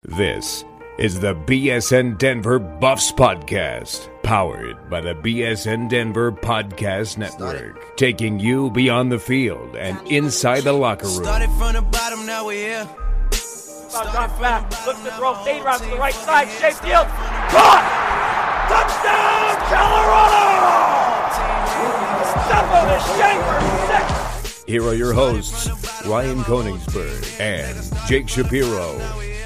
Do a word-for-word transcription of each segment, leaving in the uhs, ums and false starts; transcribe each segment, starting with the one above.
This is the B S N Denver Buffs Podcast, powered by the B S N Denver Podcast Network, taking you beyond the field and inside the locker room. Started from the bottom, now we're here. Drops back, looks to throw, fade route to the right side, Shea Field, caught! Touchdown, Colorado! Step on the Shea for six! Here are your hosts, Ryan Koenigsberg and Jake Shapiro.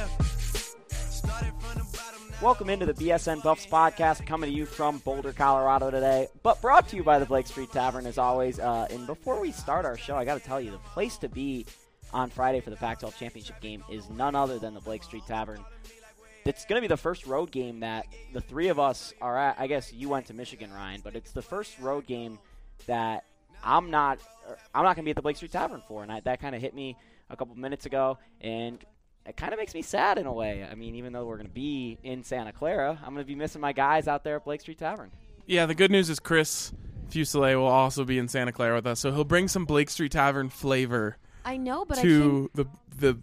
Welcome into the B S N Buffs Podcast, coming to you from Boulder, Colorado today, but brought to you by the Blake Street Tavern as always. Uh, and before we start our show, I got to tell you, the place to be on Friday for the Pac twelve championship game is none other than the Blake Street Tavern. It's going to be the first road game that the three of us are at. I guess you went to Michigan, Ryan, but it's the first road game that I'm not I'm not going to be at the Blake Street Tavern for, and I, that kind of hit me a couple minutes ago, and it kind of makes me sad in a way. I mean, even though we're going to be in Santa Clara, I'm going to be missing my guys out there at Blake Street Tavern. Yeah, the good news is Chris Fuselier will also be in Santa Clara with us, so he'll bring some Blake Street Tavern flavor I know, but to I can't, the the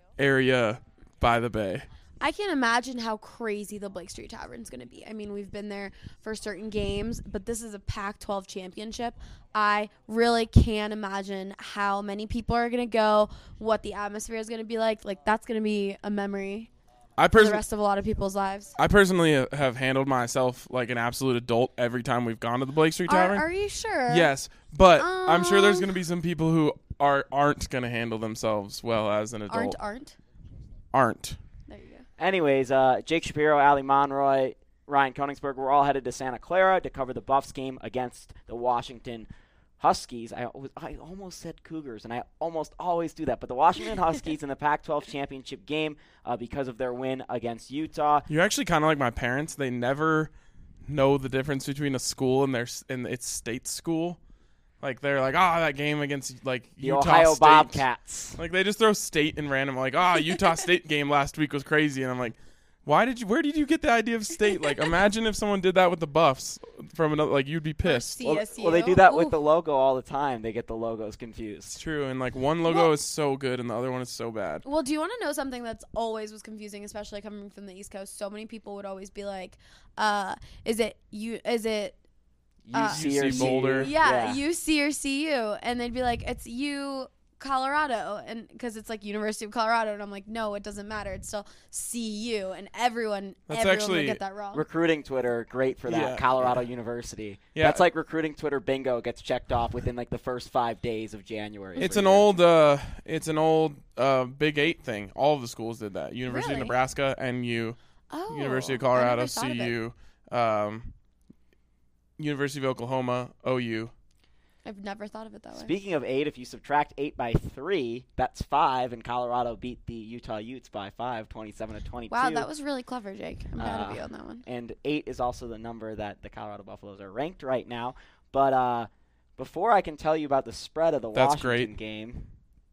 area by the bay. I can't imagine how crazy the Blake Street Tavern is going to be. I mean, we've been there for certain games, but this is a Pac twelve championship. I really can't imagine how many people are going to go, what the atmosphere is going to be like. Like, that's going to be a memory I for pers- the rest of a lot of people's lives. I personally have handled myself like an absolute adult every time we've gone to the Blake Street Tavern. Are, are you sure? Yes, but um, I'm sure there's going to be some people who are aren't going to handle themselves well as an adult. Aren't, aren't? Aren't. There you go. Anyways, uh, Jake Shapiro, Ali Monroy, Ryan Koenigsberg, we're all headed to Santa Clara to cover the Buffs game against the Washington Huskies. I, was, I almost said Cougars, and I almost always do that. But the Washington Huskies in the Pac twelve championship game uh, because of their win against Utah. You're actually kind of like my parents. They never know the difference between a school and their and its state school. Like, they're like, ah, oh, that game against, like, The Utah Ohio State. Bobcats. Like, they just throw state in random. Like, ah, oh, Utah State game last week was crazy. And I'm like, why did you, where did you get the idea of state? Like, imagine if someone did that with the Buffs from another, like, you'd be pissed. Well, Well, well, they do that with Ooh. the logo all the time. They get the logos confused. It's true. And, like, one logo Well- is so good and the other one is so bad. Well, do you want to know something that's always was confusing, especially coming from the East Coast? So many people would always be like, uh, is it you, is it, U C or U C Boulder. Yeah, U C or C U, and they'd be like, "It's U Colorado," and because it's like University of Colorado, and I'm like, "No, it doesn't matter. It's still C U," and everyone, That's everyone actually would get that wrong. Recruiting Twitter, great for that. Yeah. Colorado University. Yeah. That's like recruiting Twitter bingo gets checked off within like the first five days of January. It's for an years. old, uh, it's an old uh, Big Eight thing. All of the schools did that. University Really? of Nebraska, N U, oh, University of I Colorado, never thought of it. C U, um, University of Oklahoma, O U. I've never thought of it that way. Speaking of eight, if you subtract eight by three, that's five, and Colorado beat the Utah Utes by five, twenty-seven to twenty-two. Wow, that was really clever, Jake. I'm proud Uh, of you on that one. And eight is also the number that the Colorado Buffaloes are ranked right now. But uh, before I can tell you about the spread of the That's Washington great. game,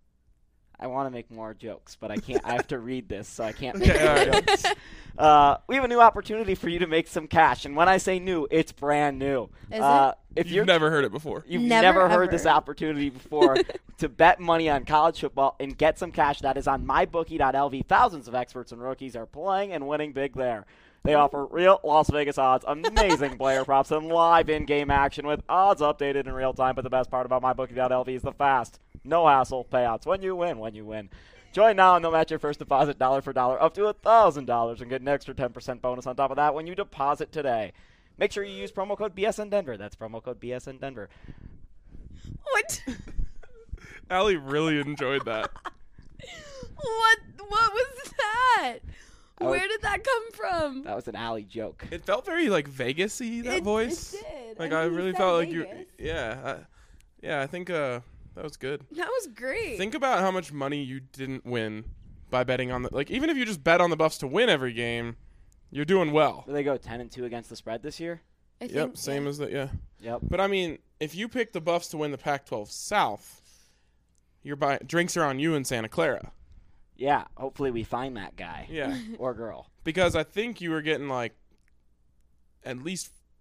I want to make more jokes, but I can't. I have to read this, so I can't make Okay, more all right. jokes. Uh, we have a new opportunity for you to make some cash, and when I say new, it's brand new. Is uh, If You've you're never heard it before. You've Never, never, heard ever. this opportunity before to bet money on college football and get some cash that is on my bookie dot L V. Thousands of experts and rookies are playing and winning big there. They offer real Las Vegas odds, amazing player props, and live in-game action with odds updated in real time. But the best part about my bookie dot L V is the fast, no-hassle payouts. When you win, when you win. Join now and they'll match your first deposit dollar for dollar up to one thousand dollars and get an extra ten percent bonus on top of that when you deposit today. Make sure you use promo code B S N Denver. That's promo code B S N Denver. What? Allie really enjoyed that. what? What was that? I was- Where did that come from? That was an alley joke. It felt very, like, Vegas-y, that It- voice. It did. Like, I, I, mean, he really said felt like Vegas. you. Yeah. I, yeah, I think uh, that was good. That was great. Think about how much money you didn't win by betting on the. Like, even if you just bet on the Buffs to win every game, you're doing well. Do they go ten and two against the spread this year? I think, Yep, same yeah. as that, yeah. Yep. But, I mean, if you pick the Buffs to win the Pac twelve South, you're buy- drinks are on you in Santa Clara. Yeah. Hopefully we find that guy Yeah. or girl. Because I think you were getting, like, at least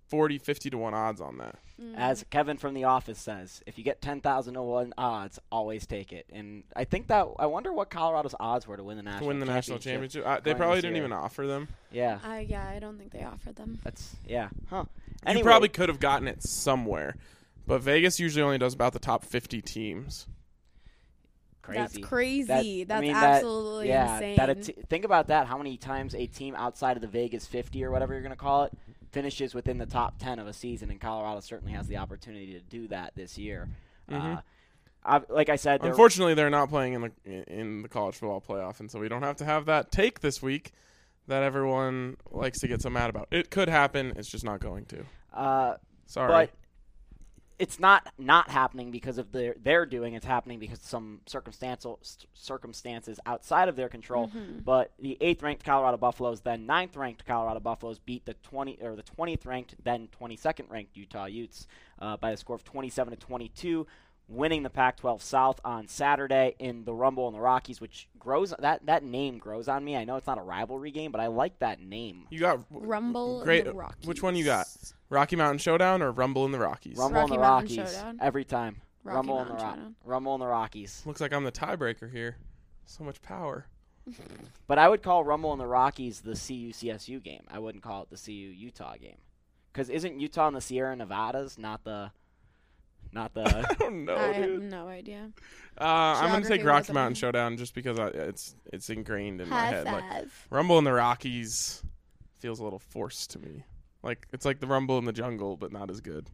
forty, fifty to one odds on that. As Kevin from The Office says, if you get ten thousand to one odds, always take it. And I think that – I wonder what Colorado's odds were to win the national To win the championship. national championship. Uh, they going probably this didn't year. even offer them. Yeah. Uh, yeah, I don't think they offered them. That's – yeah. Huh. You Anyway, probably could have gotten it somewhere. But Vegas usually only does about the top fifty teams. crazy. That's crazy. That- I That's mean, that- absolutely yeah, insane. That a t- think about that. How many times a team outside of the Vegas fifty or whatever you're going to call it finishes within the top ten of a season, and Colorado certainly has the opportunity to do that this year. Mhm. Uh, I, like I said, they're- Unfortunately, they're not playing in the in the college football playoff, and so we don't have to have that take this week that everyone likes to get so mad about. It could happen. It's just not going to. uh, Sorry. but it's not not happening because of their their doing. It's happening because of some circumstantial s- circumstances outside of their control. Mm-hmm. But the eighth ranked Colorado Buffaloes, then ninth ranked Colorado Buffaloes, beat the twenty or the twentieth ranked, then twenty-second ranked Utah Utes uh, by a score of twenty-seven to twenty-two, winning the Pac twelve South on Saturday in the Rumble in the Rockies, which grows that that name grows on me. I know it's not a rivalry game, but I like that name. you got Rumble great. in the Rockies. Which one you got? Rocky Mountain Showdown or Rumble in the Rockies? Rumble Rocky in the Mountain Rockies Showdown. every time. Rocky Rumble in the Mountain Rock. Showdown. Rumble in the Rockies. Looks like I'm the tiebreaker here. So much power. But I would call Rumble in the Rockies the C U C S U game. I wouldn't call it the C U Utah game. Because isn't Utah in the Sierra Nevadas, not the, not the. I don't know, I have dude. no idea. Uh, I'm gonna take Geography Rocky wasn't- Mountain Showdown just because I, it's it's ingrained in my High head. Like, five. Rumble in the Rockies feels a little forced to me. Like it's like the Rumble in the Jungle, but not as good.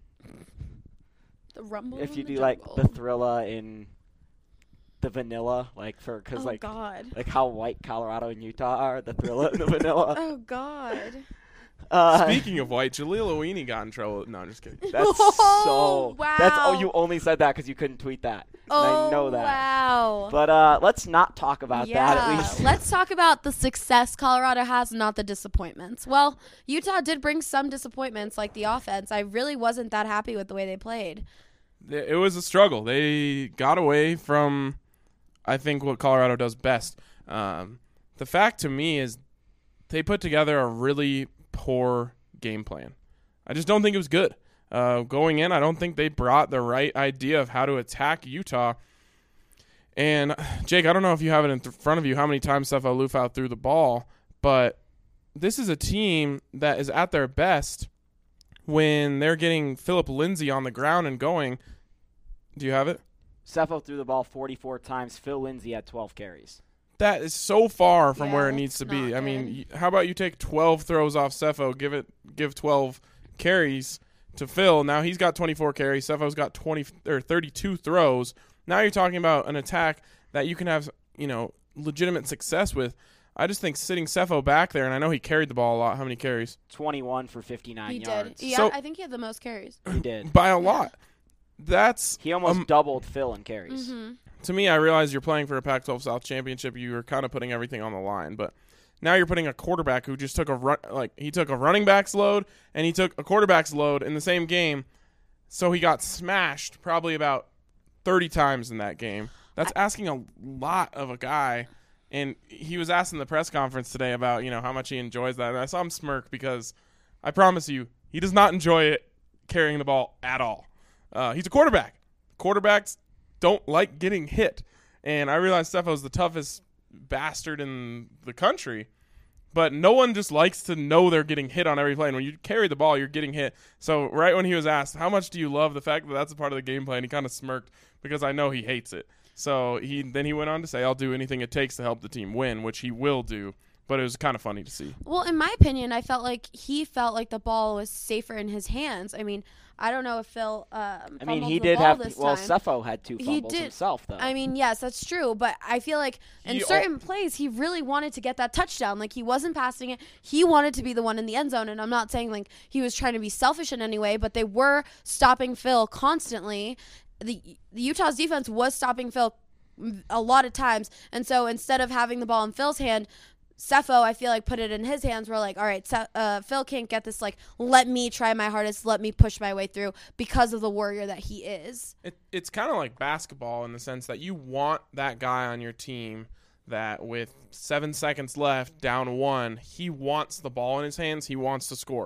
The Rumble if in you the do like Jungle. the Thrilla in the vanilla, like for because Oh like God. like how white Colorado and Utah are, the Thrilla and the vanilla. Oh God. Uh, Speaking of white, Jaleel Owini got in trouble. No, I'm just kidding. That's Oh, so. That's oh, wow. you only said that because you couldn't tweet that. And Oh I know that. wow. But uh, let's not talk about yeah. that at least. Let's talk about the success Colorado has, not the disappointments. Well, Utah did bring some disappointments, like the offense. I really wasn't that happy with the way they played. It was a struggle. They got away from, I think, what Colorado does best. Um, the fact to me is they put together a really poor game plan. I just don't think it was good. Uh, going in, I don't think they brought the right idea of how to attack Utah. And, Jake, I don't know if you have it in th- front of you how many times Sefo Liufau threw the ball, but this is a team that is at their best when they're getting Philip Lindsay on the ground and going. Do you have it? Sefo threw the ball forty-four times. Phil Lindsay had twelve carries. That is so far from Yeah, where it that's needs to not be. I good. mean, y- how about you take twelve throws off Sefo, give it give twelve carries to Phil. Now he's got twenty-four carries. Sefo's got twenty or thirty-two throws. Now you're talking about an attack that you can have, you know, legitimate success with. I just think sitting Sefo back there, and I know he carried the ball a lot. How many carries? twenty-one for fifty-nine He yards. did. Yeah, So- I think he had the most carries. He did. By a lot. That's He almost um, doubled Phil in carries. Mm-hmm. to me, I realize you're playing for a Pac twelve South championship. You are kind of putting everything on the line, but now you're putting a quarterback who just took a run, like he took a running back's load and he took a quarterback's load in the same game, so he got smashed probably about thirty times in that game. That's asking a lot of a guy. And he was asked in the press conference today about, you know, how much he enjoys that. And I saw him smirk because I promise you, he does not enjoy it carrying the ball at all. Uh, he's a quarterback. Quarterbacks don't like getting hit. And I realize Sefo's the toughest bastard in the country, but no one just likes to know they're getting hit on every play. And when you carry the ball, you're getting hit. So right when he was asked, how much do you love the fact that that's a part of the game plan, he kind of smirked because I know he hates it. So he then he went on to say, I'll do anything it takes to help the team win, which he will do. But it was kind of funny to see. Well, in my opinion, I felt like he felt like the ball was safer in his hands. I mean, I don't know if Phil. Um, I mean, fumbled he the did ball have. This Well, time. Sefo had two He fumbles did- himself, though. I mean, yes, that's true, but I feel like in He certain plays, he really wanted to get that touchdown. Like, he wasn't passing it. He wanted to be the one in the end zone, and I'm not saying, like, he was trying to be selfish in any way, but they were stopping Phil constantly. The, the Utah's defense was stopping Phil a lot of times, and so instead of having the ball in Phil's hand, Sefo, I feel like, put it in his hands. We're like, all right, Se- uh, Phil can't get this. Like, let me try my hardest. Let me push my way through because of the warrior that he is. It, it's kind of like basketball in the sense that you want that guy on your team that with seven seconds left, down one, he wants the ball in his hands. He wants to score.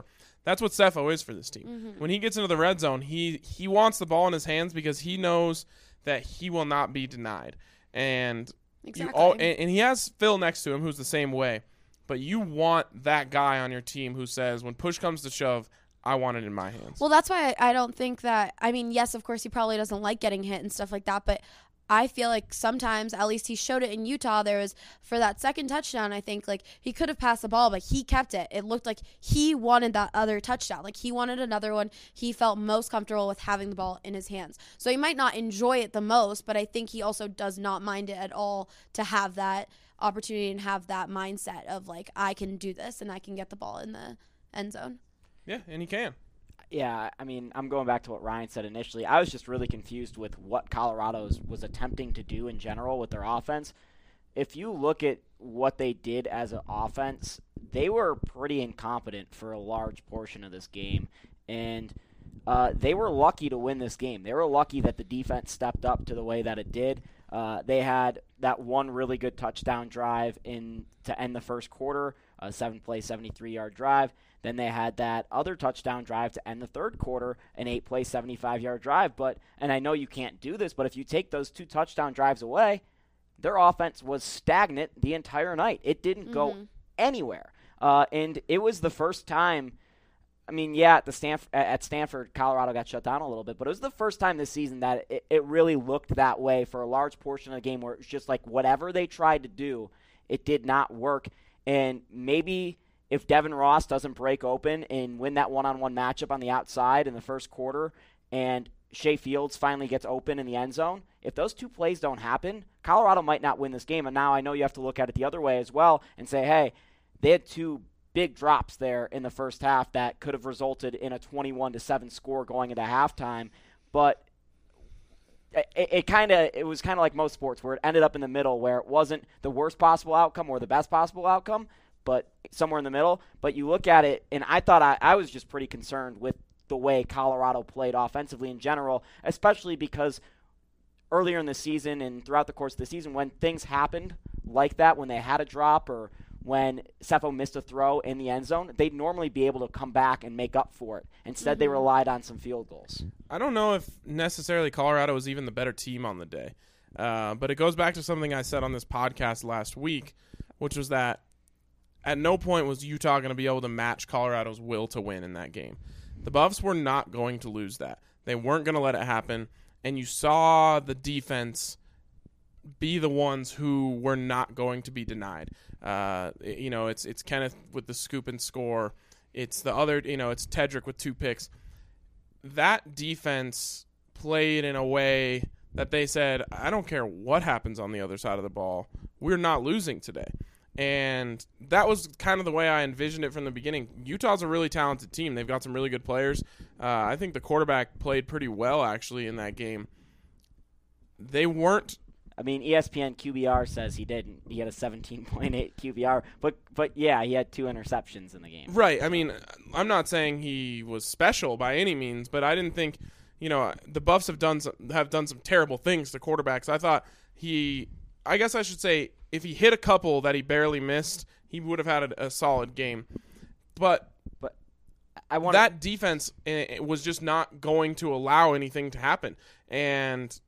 That's what Sefo is for this team. Mm-hmm. When he gets into the red zone, he he wants the ball in his hands because he knows that he will not be denied. And Exactly. you all, and, and he has Phil next to him who's the same way. But you want that guy on your team who says, when push comes to shove, I want it in my hands. Well, that's why I, I don't think that – I mean, yes, of course, he probably doesn't like getting hit and stuff like that, but I feel like sometimes, at least he showed it in Utah, there was – for that second touchdown, I think, like, he could have passed the ball, but he kept it. It looked like he wanted that other touchdown. Like, he wanted another one. He felt most comfortable with having the ball in his hands. So he might not enjoy it the most, but I think he also does not mind it at all to have that opportunity and have that mindset of, like, I can do this and I can get the ball in the end zone. Yeah, and he can. Yeah, I mean, I'm going back to what Ryan said initially. I was just really confused with what Colorado was attempting to do in general with their offense. If you look at what they did as an offense, they were pretty incompetent for a large portion of this game. And uh, they were lucky to win this game. They were lucky that the defense stepped up to the way that it did. Uh, they had that one really good touchdown drive in to end the first quarter, a seven-play, seventy-three-yard drive. Then they had that other touchdown drive to end the third quarter, an eight-play, seventy-five-yard drive. But, and I know you can't do this, but if you take those two touchdown drives away, their offense was stagnant the entire night. It didn't mm-hmm. go anywhere. Uh, and it was the first time, I mean, yeah, at, the Stanford, at Stanford, Colorado got shut down a little bit, but it was the first time this season that it, it really looked that way for a large portion of the game where it was just like whatever they tried to do, it did not work. And maybe if Devin Ross doesn't break open and win that one-on-one matchup on the outside in the first quarter and Shea Fields finally gets open in the end zone, if those two plays don't happen, Colorado might not win this game. And now I know you have to look at it the other way as well and say, hey, they had two big drops there in the first half that could have resulted in a twenty-one to seven score going into halftime. But it, it kind of it was kind of like most sports where it ended up in the middle where it wasn't the worst possible outcome or the best possible outcome, but somewhere in the middle. But you look at it, and I thought I, I was just pretty concerned with the way Colorado played offensively in general, especially because earlier in the season and throughout the course of the season when things happened like that, when they had a drop or when Sefo missed a throw in the end zone, they'd normally be able to come back and make up for it. Instead, mm-hmm. they relied on some field goals. I don't know if necessarily Colorado was even the better team on the day, uh, but it goes back to something I said on this podcast last week, which was that at no point was Utah going to be able to match Colorado's will to win in that game. The Buffs were not going to lose that. They weren't going to let it happen, and you saw the defense be the ones who were not going to be denied. Uh, you know, it's it's Kenneth with the scoop and score. It's the other, you know, it's Tedrick with two picks. That defense played in a way that they said, I don't care what happens on the other side of the ball. We're not losing today. And that was kind of the way I envisioned it from the beginning. Utah's a really talented team. They've got some really good players. Uh, I think the quarterback played pretty well, actually, in that game. They weren't. I mean, E S P N Q B R says he didn't. He had a seventeen point eight Q B R. But, but yeah, he had two interceptions in the game. Right. I mean, I'm not saying he was special by any means, but I didn't think, you know, the Buffs have done some, have done some terrible things to quarterbacks. I thought he, I guess I should say, if he hit a couple that he barely missed, he would have had a, a solid game. But but I want that defense uh, was just not going to allow anything to happen. And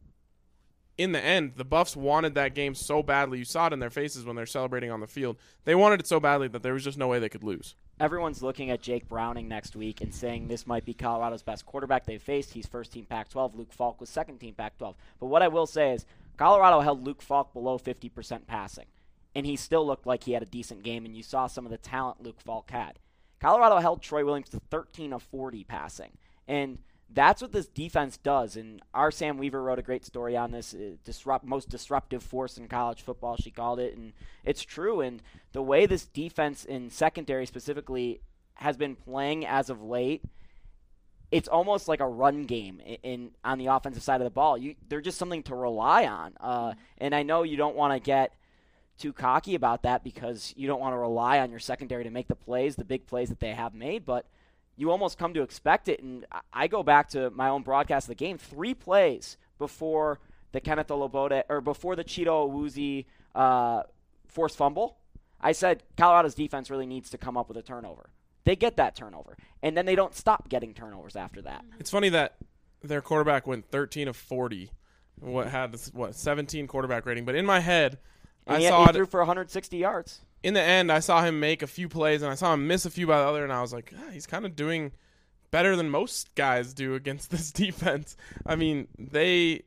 in the end, the Buffs wanted that game so badly. You saw it in their faces when they're celebrating on the field. They wanted it so badly that there was just no way they could lose. Everyone's looking at Jake Browning next week and saying this might be Colorado's best quarterback they've faced. He's first-team Pac twelve. Luke Falk was second-team Pac twelve. But what I will say is Colorado held Luke Falk below fifty percent passing, and he still looked like he had a decent game, and you saw some of the talent Luke Falk had. Colorado held Troy Williams to thirteen of forty passing, and that's what this defense does. And our Sam Weaver wrote a great story on this, uh, disrupt, most disruptive force in college football, she called it, and it's true. And the way this defense in secondary specifically has been playing as of late, it's almost like a run game in, in on the offensive side of the ball. You, they're just something to rely on. Uh, and I know you don't want to get too cocky about that because you don't want to rely on your secondary to make the plays, the big plays that they have made, but you almost come to expect it. And I go back to my own broadcast of the game, three plays before the Kenneth Olobode, or before the Cheeto Awuzie uh, forced fumble. I said Colorado's defense really needs to come up with a turnover. they get that turnover. And then they don't stop getting turnovers after that. It's funny that their quarterback went thirteen of forty, what had this, what seventeen quarterback rating. But in my head, And I he, saw he it. threw for one hundred sixty yards. In the end, I saw him make a few plays, and I saw him miss a few by the other, and I was like, ah, he's kind of doing better than most guys do against this defense. I mean, they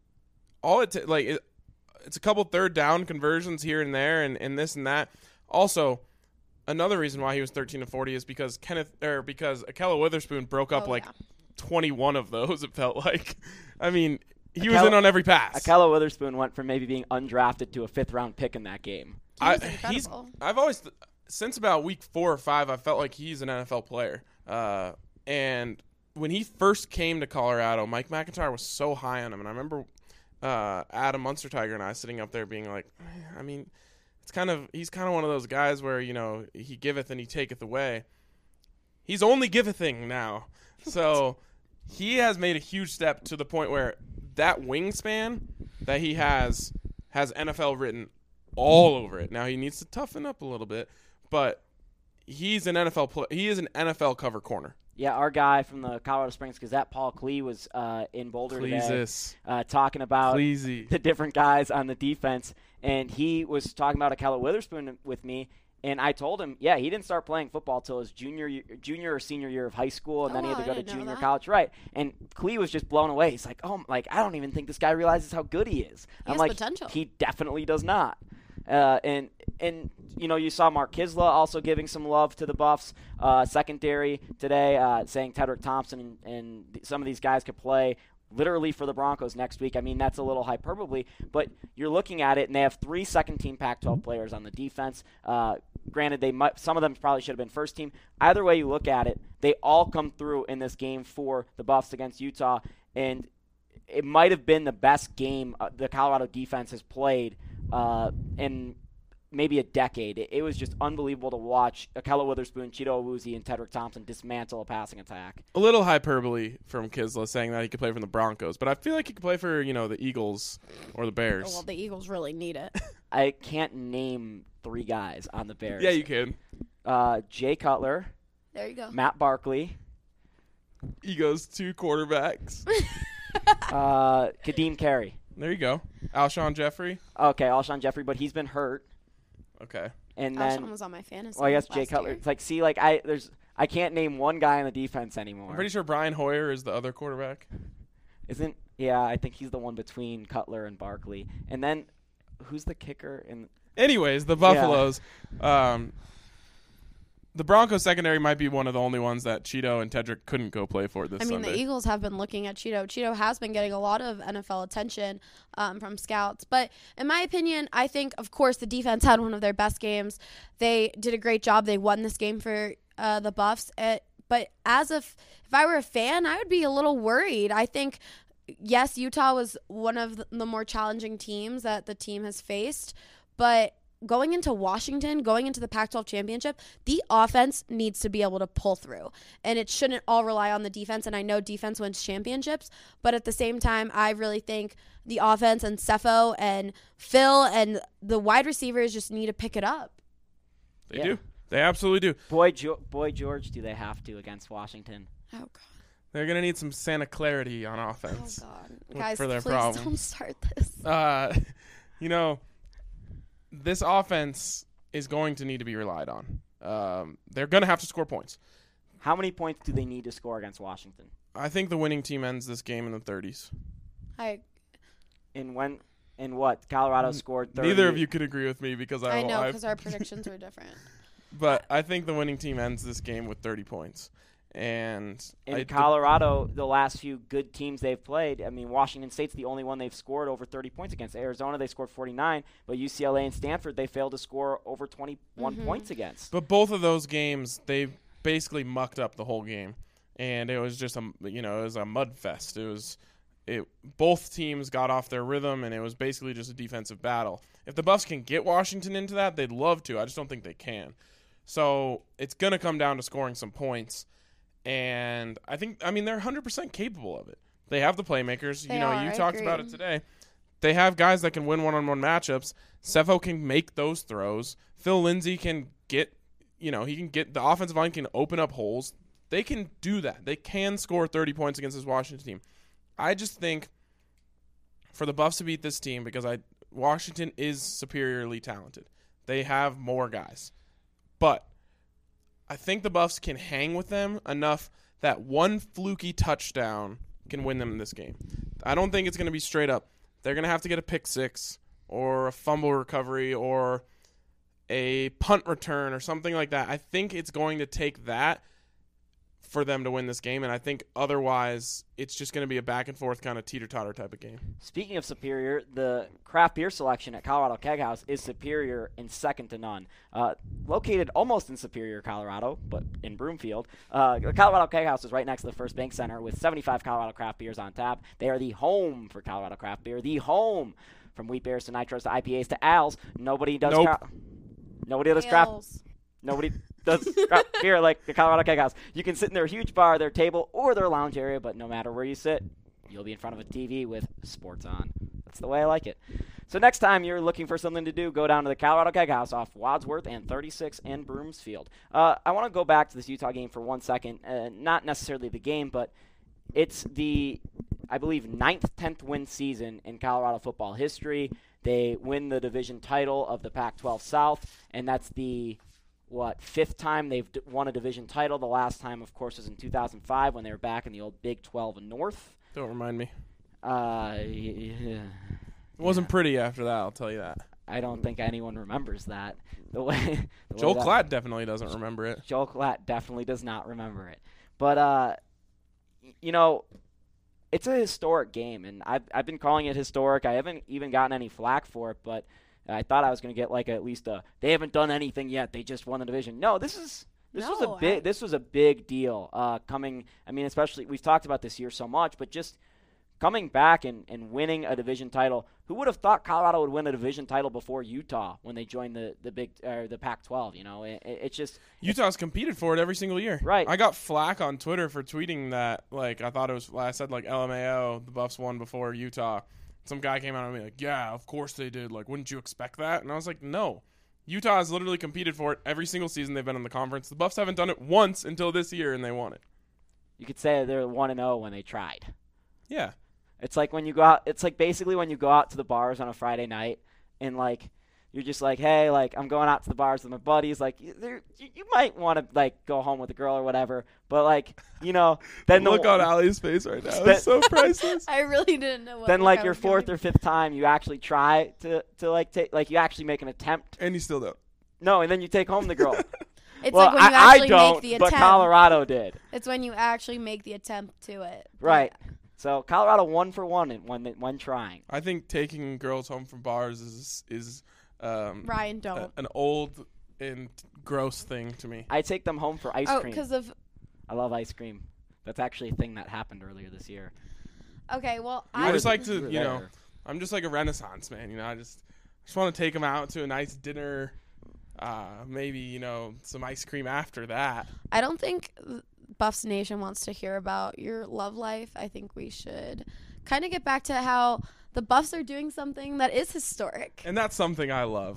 all it t- like it, it's a couple third down conversions here and there, and, and this and that. Also, another reason why he was thirteen to forty is because Kenneth or because Akella Witherspoon broke up Oh, like yeah. twenty-one of those. It felt like, I mean, he Akella- was in on every pass. Akella Witherspoon went from maybe being undrafted to a fifth-round pick in that game. He was I, he's, incredible. I've always, th- since about week four or five, I felt like he's an N F L player. Uh, and when he first came to Colorado, Mike McIntyre was so high on him. And I remember uh, Adam Munster Tiger and I sitting up there being like, I mean, it's kind of, he's kind of one of those guys where, you know, he giveth and he taketh away. He's only givething now. So he has made a huge step to the point where that wingspan that he has has N F L written all over it. Now he needs to toughen up a little bit, but he's an N F L play- he is an N F L cover corner. Yeah, our guy from the Colorado Springs Gazette, Paul Klee, was uh, in Boulder today Pleases. uh, talking about Pleasy. the different guys on the defense, and he was talking about Akella Witherspoon with me, and I told him, yeah, he didn't start playing football till his junior year, junior or senior year of high school, and Oh, then he had wow, to I go to didn't know junior that. college, right? And Klee was just blown away. He's like, oh, like I don't even think this guy realizes how good he is. He I'm has like, potential. he definitely does not. Uh, and and you know you saw Mark Kisla also giving some love to the Buffs uh, secondary today, uh, saying Tedrick Thompson and, and th- some of these guys could play literally for the Broncos next week. I mean, that's a little hyperbole, but you're looking at it, and they have three second-team Pac twelve players on the defense. Uh, granted, they might, some of them probably should have been first team. Either way you look at it, they all come through in this game for the Buffs against Utah, and it might have been the best game uh, the Colorado defense has played uh, in maybe a decade. It, it was just unbelievable to watch Akella Witherspoon, Cheeto Awuzie, and Tedrick Thompson dismantle a passing attack. A little hyperbole from Kisla saying that he could play from the Broncos, but I feel like he could play for, you know, the Eagles or the Bears. Oh, well, the Eagles really need it. I can't name three guys on the Bears. Yeah, you can. Uh, Jay Cutler, There you go. Matt Barkley, He goes two quarterbacks. uh, Kadeem Carey. There you go. Alshon Jeffrey. Okay, Alshon Jeffrey, but he's been hurt. Okay. And then, Alshon was on my fantasy. well, I guess last Jay Cutler. year. It's like, see, like I there's I can't name one guy on the defense anymore. I'm pretty sure Brian Hoyer is the other quarterback. Isn't? Yeah, I think he's the one between Cutler and Barkley. And then, who's the kicker? In Anyways, the Buffaloes, um, the Broncos secondary might be one of the only ones that Cheeto and Tedrick couldn't go play for this I mean, Sunday. the Eagles have been looking at Cheeto. Cheeto has been getting a lot of N F L attention um, from scouts. But in my opinion, I think, of course, the defense had one of their best games. They did a great job. They won this game for uh, the Buffs. It, but as if if I were a fan, I would be a little worried. I think, yes, Utah was one of the, the more challenging teams that the team has faced. But going into Washington, going into the Pac twelve championship, the offense needs to be able to pull through. And it shouldn't all rely on the defense. And I know defense wins championships. But at the same time, I really think the offense and Cepho and Phil and the wide receivers just need to pick it up. They Yeah. do. They absolutely do. Boy, jo- boy, George, do they have to against Washington? Oh, God. They're going to need some Santa Clarity on Oh, offense. God. Look Guys, for their please problem. don't start this. Uh, you know, this offense is going to need to be relied on. Um, they're going to have to score points. How many points do they need to score against Washington? I think the winning team ends this game in the thirties. I In when? In what? Colorado scored thirty. Neither of you could agree with me because I, I know I because our predictions were different. But I think the winning team ends this game with thirty points. And In I, Colorado, the last few good teams they've played, I mean, Washington State's the only one they've scored over thirty points against. Arizona, they scored forty-nine, but U C L A and Stanford, they failed to score over twenty-one Mm-hmm. points against. But both of those games, they basically mucked up the whole game, and it was just a you know it was a mud fest. It was it both teams got off their rhythm, and it was basically just a defensive battle. If the Buffs can get Washington into that, they'd love to. I just don't think they can. So it's gonna come down to scoring some points, and I think I mean they're one hundred percent capable of it. They have the playmakers. They you know, are, you I talked about agree. it today. They have guys that can win one-on-one matchups. Cepho can make those throws. Phil Lindsay can get you know, he can get the offensive line can open up holes. They can do that. They can score thirty points against this Washington team. I just think for the Buffs to beat this team, because I Washington is superiorly talented. They have more guys. But I think the Buffs can hang with them enough that one fluky touchdown can win them in this game. I don't think it's going to be straight up. They're going to have to get a pick six or a fumble recovery or a punt return or something like that. I think it's going to take that for them to win this game, and I think otherwise it's just going to be a back-and-forth kind of teeter-totter type of game. Speaking of superior, the craft beer selection at Colorado Keg House is superior and second to none. Uh, located almost in Superior, Colorado, but in Broomfield, uh, the Colorado Keg House is right next to the First Bank Center with seventy-five Colorado craft beers on tap. They are the home for Colorado craft beer, the home from wheat beers to nitros to I P As to ales. Nobody does Nope. cra- Nobody does craft. Nobody does craft beer like the Colorado Keg House. You can sit in their huge bar, their table, or their lounge area, but no matter where you sit, you'll be in front of a T V with sports on. That's the way I like it. So next time you're looking for something to do, go down to the Colorado Keg House off Wadsworth and thirty-six in Broomsfield. Uh, I want to go back to this Utah game for one second. Uh, not necessarily the game, but it's the, I believe, ninth, tenth win season in Colorado football history. They win the division title of the Pac twelve South, and that's the, what, fifth time they've d- won a division title. The last time, of course, was in two thousand five when they were back in the old Big twelve North. Don't remind me. Uh, yeah. It wasn't pretty after that, I'll tell you that. I don't think anyone remembers that. The way the Joel way that, Klatt definitely doesn't remember it. Joel Klatt definitely does not remember it. But uh, y- you know, it's a historic game, and I've I've been calling it historic. I haven't even gotten any flack for it, but I thought I was going to get like at least a they haven't done anything yet. They just won the division. No, this is this was No, a big I- this was a big deal. Uh, coming, I mean, especially we've talked about this year so much, but just coming back and, and winning a division title. Who would have thought Colorado would win a division title before Utah when they joined the the big uh, the Pac twelve? You know, it, it, it's just Utah's competed for it every single year. Right. I got flack on Twitter for tweeting that, like, I thought it was, I said, like, L M A O, the Buffs won before Utah. Some guy came out and me like, yeah, of course they did. Like, wouldn't you expect that? And I was like, no. Utah has literally competed for it every single season they've been in the conference. The Buffs haven't done it once until this year, and they won it. you could say they're one and zero when they tried. Yeah. It's like when you go out. It's like basically when you go out to the bars on a Friday night, and like you're just like, hey, like I'm going out to the bars with my buddies. Like you, you, you might want to like go home with a girl or whatever, but like you know, then Look the on Allie's face right now. That- It's so priceless. I really didn't know what then look like I your was fourth giving. or fifth time, you actually try to to like take like you actually make an attempt. And you still don't. No, and then you take home the girl. It's well, like when you I, actually I don't, make the but attempt. Colorado did. It's when you actually make the attempt to it. Right. So Colorado one for one in- when when trying. I think taking girls home from bars is is um, Ryan, a- don't. an old and gross thing to me. I take them home for ice Oh, cream. because of I love ice cream. That's actually a thing that happened earlier this year. okay. Well, I I just like You to, were you know, there. I'm just like a Renaissance man. You know, I just just want to take them out to a nice dinner. Uh, maybe you know some ice cream after that. I don't think Buffs Nation wants to hear about your love life. I think we should kind of get back to how the Buffs are doing something that is historic. And that's something I love.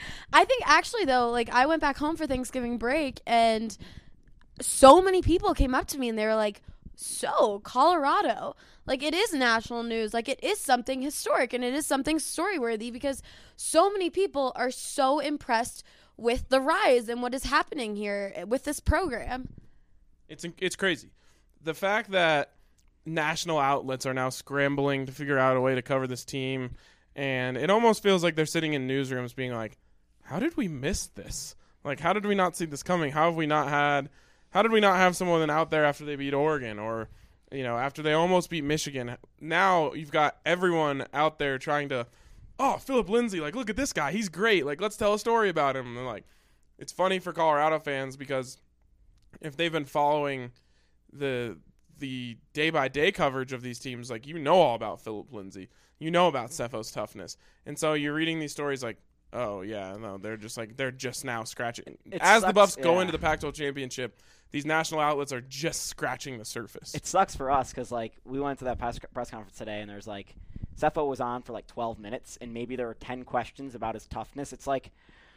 I think actually though, like I went back home for Thanksgiving break and so many people came up to me and they were like, so Colorado, like it is national news, like it is something historic and it is something story worthy because so many people are so impressed with the rise and what is happening here with this program. It's it's crazy. The fact that national outlets are now scrambling to figure out a way to cover this team, and it almost feels like they're sitting in newsrooms being like, how did we miss this? Like, how did we not see this coming? How have we not had how did we not have someone out there after they beat Oregon or, you know, after they almost beat Michigan? Now you've got everyone out there trying to, oh, Philip Lindsay, like, look at this guy. He's great. Like, let's tell a story about him. And, like, it's funny for Colorado fans because if they've been following the the day-by-day coverage of these teams, like, you know all about Philip Lindsay. You know about Cephos' toughness. And so you're reading these stories like, oh, yeah, no, they're just like, they're just now scratching. It As the sucks, Buffs go yeah. into the Pac twelve championship, these national outlets are just scratching the surface. It sucks for us because, like, we went to that press, press conference today, and there's, like, Cepho was on for, like, twelve minutes, and maybe there were ten questions about his toughness. It's like,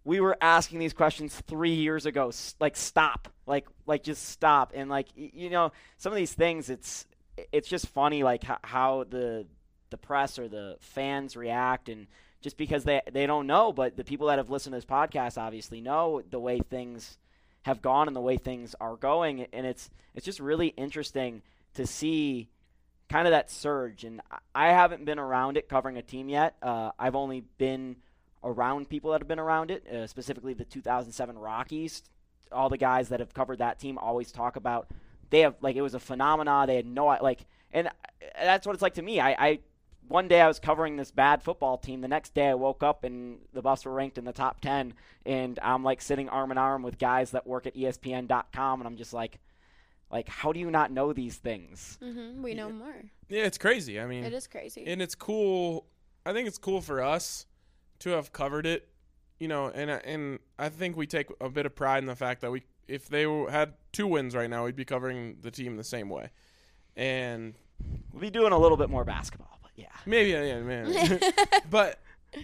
we were asking these questions three years ago. S- like, stop. Like, like just stop. And, like, y- you know, some of these things, it's it's just funny, like, h- how the the press or the fans react. And just because they, they don't know, but the people that have listened to this podcast obviously know the way things have gone and the way things are going. And it's it's just really interesting to see kind of that surge. And I haven't been around it covering a team yet. Uh, I've only been around people that have been around it, uh, specifically the two thousand seven Rockies. All the guys that have covered that team always talk about they have, like, it was a phenomena. They had no, like, and that's what it's like to me. I, I one day I was covering this bad football team. The next day I woke up and the Buffs were ranked in the top ten, and I'm, like, sitting arm in arm with guys that work at E S P N dot com, and I'm just like, like, how do you not know these things? Mm-hmm. We know more. Yeah, it's crazy. I mean, It is crazy. and it's cool. I think it's cool for us to have covered it, you know, and and I think we take a bit of pride in the fact that we, if they had two wins right now, we'd be covering the team the same way, and We'll be doing a little bit more basketball, but yeah. maybe, yeah, man. But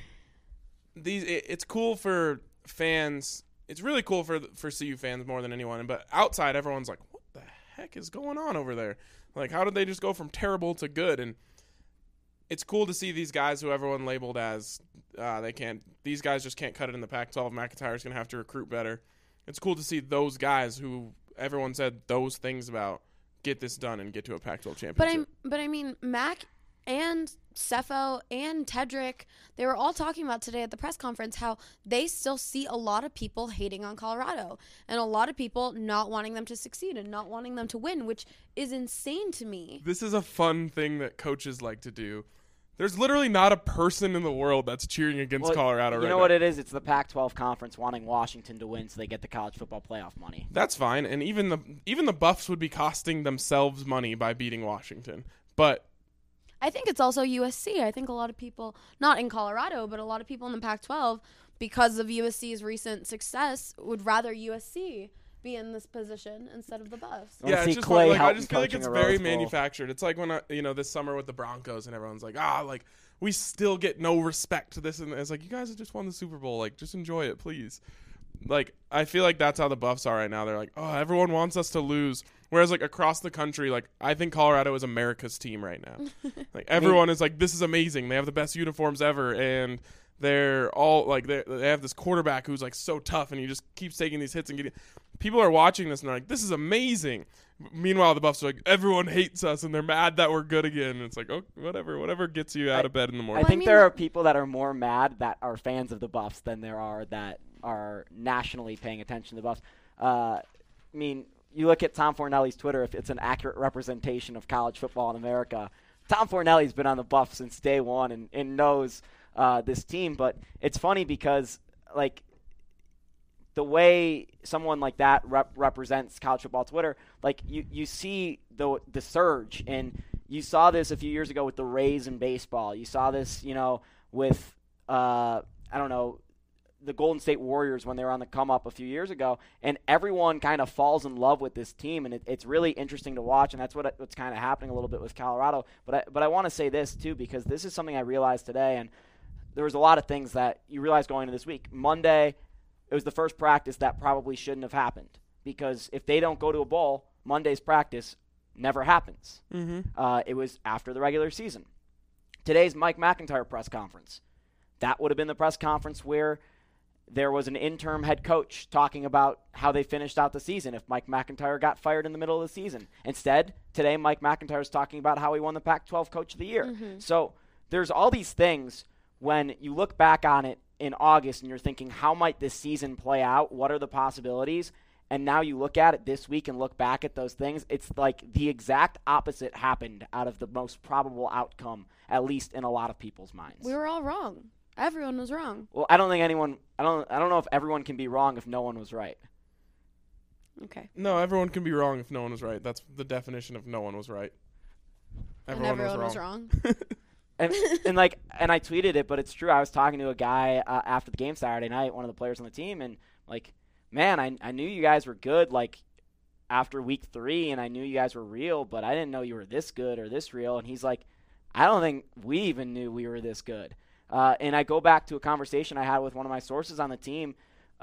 these, it, it's cool for fans. It's really cool for for C U fans more than anyone. But outside, everyone's like, "What the heck is going on over there? Like, how did they just go from terrible to good?" And it's cool to see these guys who everyone labeled as uh, they can't. These guys just can't cut it in the Pac twelve. McIntyre's gonna have to recruit better. It's cool to see those guys who everyone said those things about get this done and get to a Pac twelve championship. But I, but I mean, Mac and Cepho and Tedrick, they were all talking about today at the press conference how they still see a lot of people hating on Colorado and a lot of people not wanting them to succeed and not wanting them to win, which is insane to me. This is a fun thing that coaches like to do. There's literally not a person in the world that's cheering against Well, Colorado you right know now. what it is? It's the Pac twelve conference wanting Washington to win so they get the college football playoff money. That's fine, and even the even the Buffs would be costing themselves money by beating Washington. But I think it's also U S C. I think a lot of people, not in Colorado, but a lot of people in the Pac twelve, because of U S C's recent success, would rather U S C be in this position instead of the Buffs. I wanna yeah, see it's just Clay like, I Helton just feel like coaching it's a very Rose Bowl. manufactured. It's like when I, you know, this summer with the Broncos and everyone's like, ah, like we still get no respect to this, and it's like, you guys have just won the Super Bowl, like just enjoy it, please. Like, I feel like that's how the Buffs are right now. They're like, oh, everyone wants us to lose. Whereas, like, across the country, like, I think Colorado is America's team right now. Like, everyone is like, this is amazing. They have the best uniforms ever, and they're all, like, they they have this quarterback who's, like, so tough, and he just keeps taking these hits and getting – people are watching this, and they're like, this is amazing. Meanwhile, the Buffs are like, everyone hates us, and they're mad that we're good again. And it's like, oh, whatever. Whatever gets you out I- of bed in the I morning. think mean, there like- are people that are more mad that are fans of the Buffs than there are that are nationally paying attention to the Buffs. Uh, I mean, you look at Tom Fornelli's Twitter, if it's an accurate representation of college football in America. Tom Fornelli's been on the Buffs since day one and, and knows uh, this team. But it's funny because, like, the way someone like that rep- represents college football Twitter, like, you, you see the the surge. And you saw this a few years ago with the Rays in baseball. You saw this, you know, with, uh, I don't know, the Golden State Warriors when they were on the come up a few years ago, and everyone kind of falls in love with this team, and it, it's really interesting to watch, and that's what what's kind of happening a little bit with Colorado. But I, but I want to say this too, because this is something I realized today, and there was a lot of things that you realize going into this week. Monday, it was the first practice that probably shouldn't have happened, because if they don't go to a bowl, Monday's practice never happens. Mm-hmm. Uh, it was after the regular season. Today's Mike McIntyre press conference. That would have been the press conference where there was an interim head coach talking about how they finished out the season if Mike McIntyre got fired in the middle of the season. Instead, today Mike McIntyre is talking about how he won the Pac twelve Coach of the Year. Mm-hmm. So there's all these things when you look back on it in August and you're thinking, how might this season play out? What are the possibilities? And now you look at it this week and look back at those things. It's like the exact opposite happened out of the most probable outcome, at least in a lot of people's minds. We were all wrong. Everyone was wrong. Well, I don't think anyone. I don't. I don't know if everyone can be wrong if no one was right. Okay. No, everyone can be wrong if no one was right. That's the definition of no one was right. Everyone, and everyone was wrong. was wrong. And and like and I tweeted it, but it's true. I was talking to a guy uh, after the game Saturday night, one of the players on the team, and like, man, I I knew you guys were good. Like after week three, and I knew you guys were real, but I didn't know you were this good or this real. And he's like, I don't think we even knew we were this good. Uh, and I go back to a conversation I had with one of my sources on the team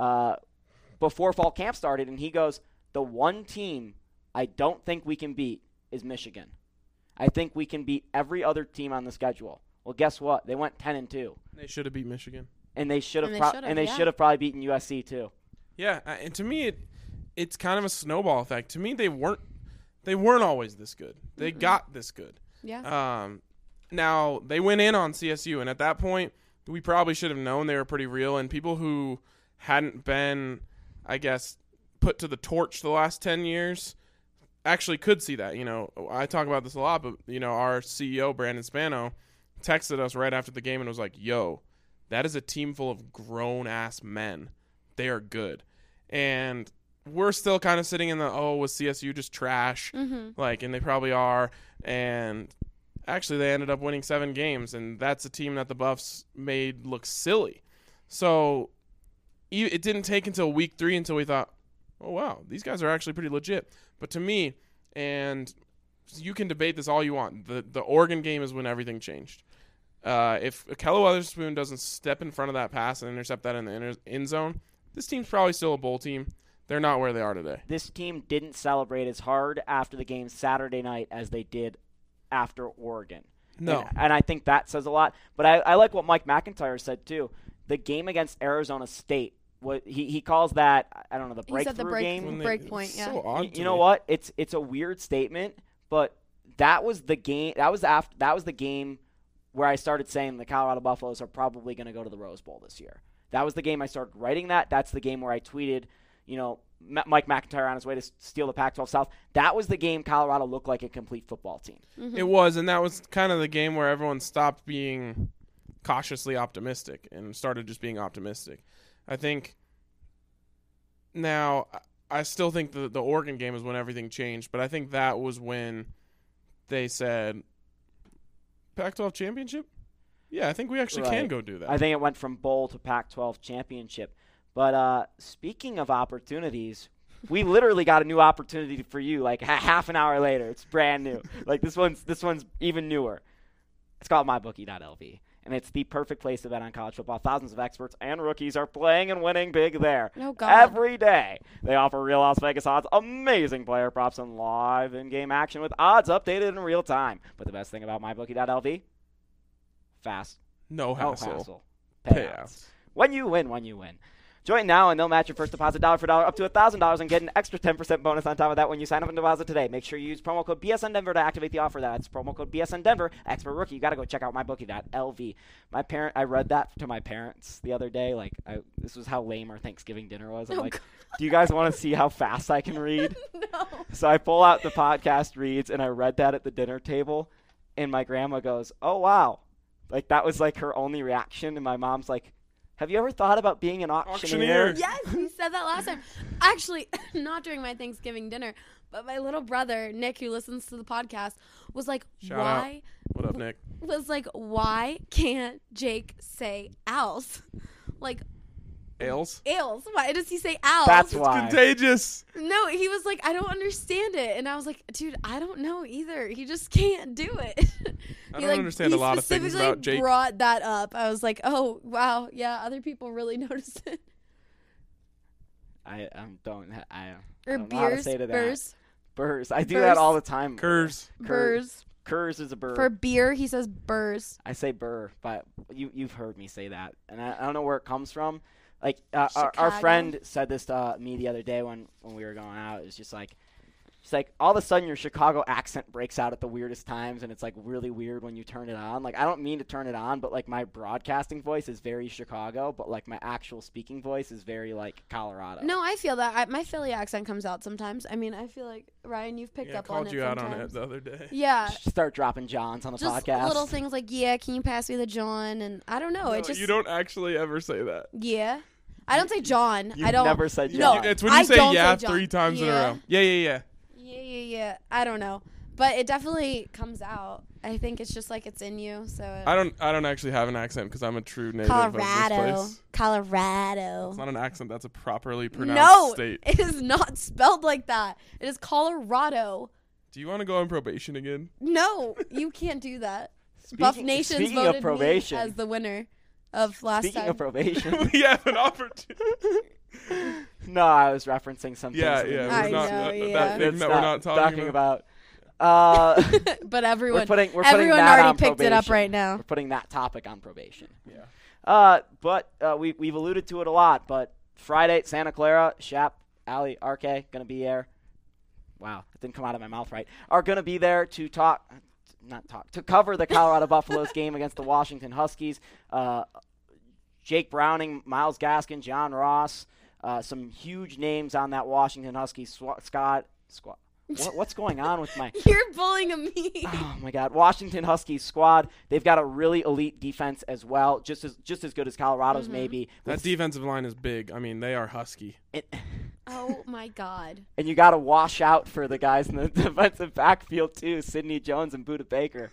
uh, before fall camp started, and he goes, the one team I don't think we can beat is Michigan. I think we can beat every other team on the schedule. Well, guess what? They went ten and two. They should have beat Michigan. And they should have And they pro- should've, and they yeah. should have probably beaten U S C too. Yeah, uh, and to me, it it's kind of a snowball effect. To me, they weren't they weren't always this good. They mm-hmm. got this good. Yeah. Um, now they went in on C S U, and at that point, we probably should have known they were pretty real. And people who hadn't been, I guess, put to the torch the last ten years actually could see that. You know, I talk about this a lot, but you know, our C E O Brandon Spano texted us right after the game and was like, "Yo, that is a team full of grown-ass men. They are good." And we're still kind of sitting in the, oh, was C S U just trash? Mm-hmm. Like, and they probably are. And actually, they ended up winning seven games, and that's a team that the Buffs made look silly. So it didn't take until week three until we thought, oh, wow, these guys are actually pretty legit. But to me, and you can debate this all you want, the, the Oregon game is when everything changed. Uh, if Kelly Weatherspoon doesn't step in front of that pass and intercept that in the inner, end zone, this team's probably still a bowl team. They're not where they are today. This team didn't celebrate as hard after the game Saturday night as they did after Oregon. No. And, and I think that says a lot. But I, I like what Mike McIntyre said, too. The game against Arizona State, what he, he calls that, I don't know, the He said breakthrough the break, game. they- break point, it's yeah. So odd You, to you know me. what? It's it's a weird statement, but that was the game. That was after. That was the game where I started saying the Colorado Buffaloes are probably going to go to the Rose Bowl this year. That was the game I started writing that. That's the game where I tweeted, you know, M- Mike McIntyre on his way to s- steal the Pac twelve South. That was the game Colorado looked like a complete football team. Mm-hmm. It was, and that was kind of the game where everyone stopped being cautiously optimistic and started just being optimistic. I think now I still think the the Oregon game is when everything changed, but I think that was when they said Pac twelve championship? Yeah, I think we actually Right. can go do that. I think it went from bowl to Pac twelve championship. But uh, speaking of opportunities, we literally got a new opportunity for you like ha- half an hour later. It's brand new. Like this one's this one's even newer. It's called my bookie dot L V. And it's the perfect place to bet on college football. Thousands of experts and rookies are playing and winning big there. Oh, God. Every day. They offer real Las Vegas odds, amazing player props, and live in-game action with odds updated in real time. But the best thing about my bookie dot L V? Fast. no No hassle. hassle. Payouts. Payouts. When you win, when you win. Join now and they'll match your first deposit dollar for dollar up to one thousand dollars and get an extra ten percent bonus on top of that when you sign up and deposit today. Make sure you use promo code B S N Denver to activate the offer. That's promo code B S N Denver. Expert rookie. You got to go check out my bookie dot L V. My parent, I read that to my parents the other day. Like, I, this was how lame our Thanksgiving dinner was. I'm Oh, like, God. do you guys want to see how fast I can read? No. So I pull out the podcast reads, and I read that at the dinner table, and my grandma goes, oh, wow. Like, that was, like, her only reaction, and my mom's like, have you ever thought about being an auctioneer? Auctioneer. Yes, you said that last time. Actually, not during my Thanksgiving dinner, but my little brother, Nick, who listens to the podcast, was like, Shout why? What up, Nick? Was like, why can't Jake say owls? Like, Ales? ales. Why does he say owls? That's It's why. contagious. No, he was like, I don't understand it. And I was like, dude, I don't know either. He just can't do it. I He, don't like, understand he a lot of things specifically about Jake. brought that up. I was like, oh, wow. Yeah, other people really notice it. I um, don't, ha- I, I Or don't know how to beers. say to that. Burrs. Burrs. I do Burrs. that all the time. Kurs. Kur- Burrs. Kurs is a burr. For beer, he says burrs. I say burr, but you, you've heard me say that. And I, I don't know where it comes from. Like, uh, our, our Chicago. friend said this to uh, me the other day when, when we were going out. It was just like, it's like all of a sudden your Chicago accent breaks out at the weirdest times, and it's like really weird when you turn it on. Like, I don't mean to turn it on, but like my broadcasting voice is very Chicago, but like my actual speaking voice is very like Colorado. No, I feel that. I, my Philly accent comes out sometimes. I mean, I feel like, Ryan, you've picked Yeah, I up on called it you out on sometimes. it the other day. Yeah. Start dropping Johns on the Just podcast. little things like, yeah, can you pass me the John? And I don't know. No, it just, you don't actually ever say that. yeah. I don't say John. You've I don't. never said No, John. It's when you I say don't yeah say John. three times in a Yeah. row. Yeah, yeah, yeah. Yeah, yeah, yeah. I don't know. But it definitely comes out. I think it's just like it's in you. So it, I don't. I don't actually have an accent because I'm a true native of this Colorado. place. Colorado. It's not an accent. That's a properly pronounced No, state. it is not spelled like that. It is Colorado. Do you want to go on probation again? No, you can't do that. Buff Speaking- Nations speaking voted of probation, me as the winner of last speaking time. of probation, we have an opportunity. No, I was referencing something. Yeah, yeah. I We're not, know, that, yeah. that thing that we're not talking, about. Uh, But everyone, we're putting, we're putting everyone that already on picked it up probation. right now. We're putting that topic on probation. Yeah. Uh, but uh, we, we've alluded to it a lot. But Friday, Santa Clara, Shap, Ali, R K, going to be there. Wow, it didn't come out of my mouth right. Are going to be there to talk, not talk, to cover the Colorado Buffaloes game against the Washington Huskies. Uh, Jake Browning, Myles Gaskin, John Ross, uh, some huge names on that Washington Huskies sw- Scott. Squad. What, what's going on with my? You're bullying me. Oh my God, Washington Huskies squad. They've got a really elite defense as well, just as just as good as Colorado's Mm-hmm. maybe. That With- defensive line is big. I mean, they are husky. it- Oh my God. and you got to wash out for the guys in the defensive backfield too, Sidney Jones and Budda Baker.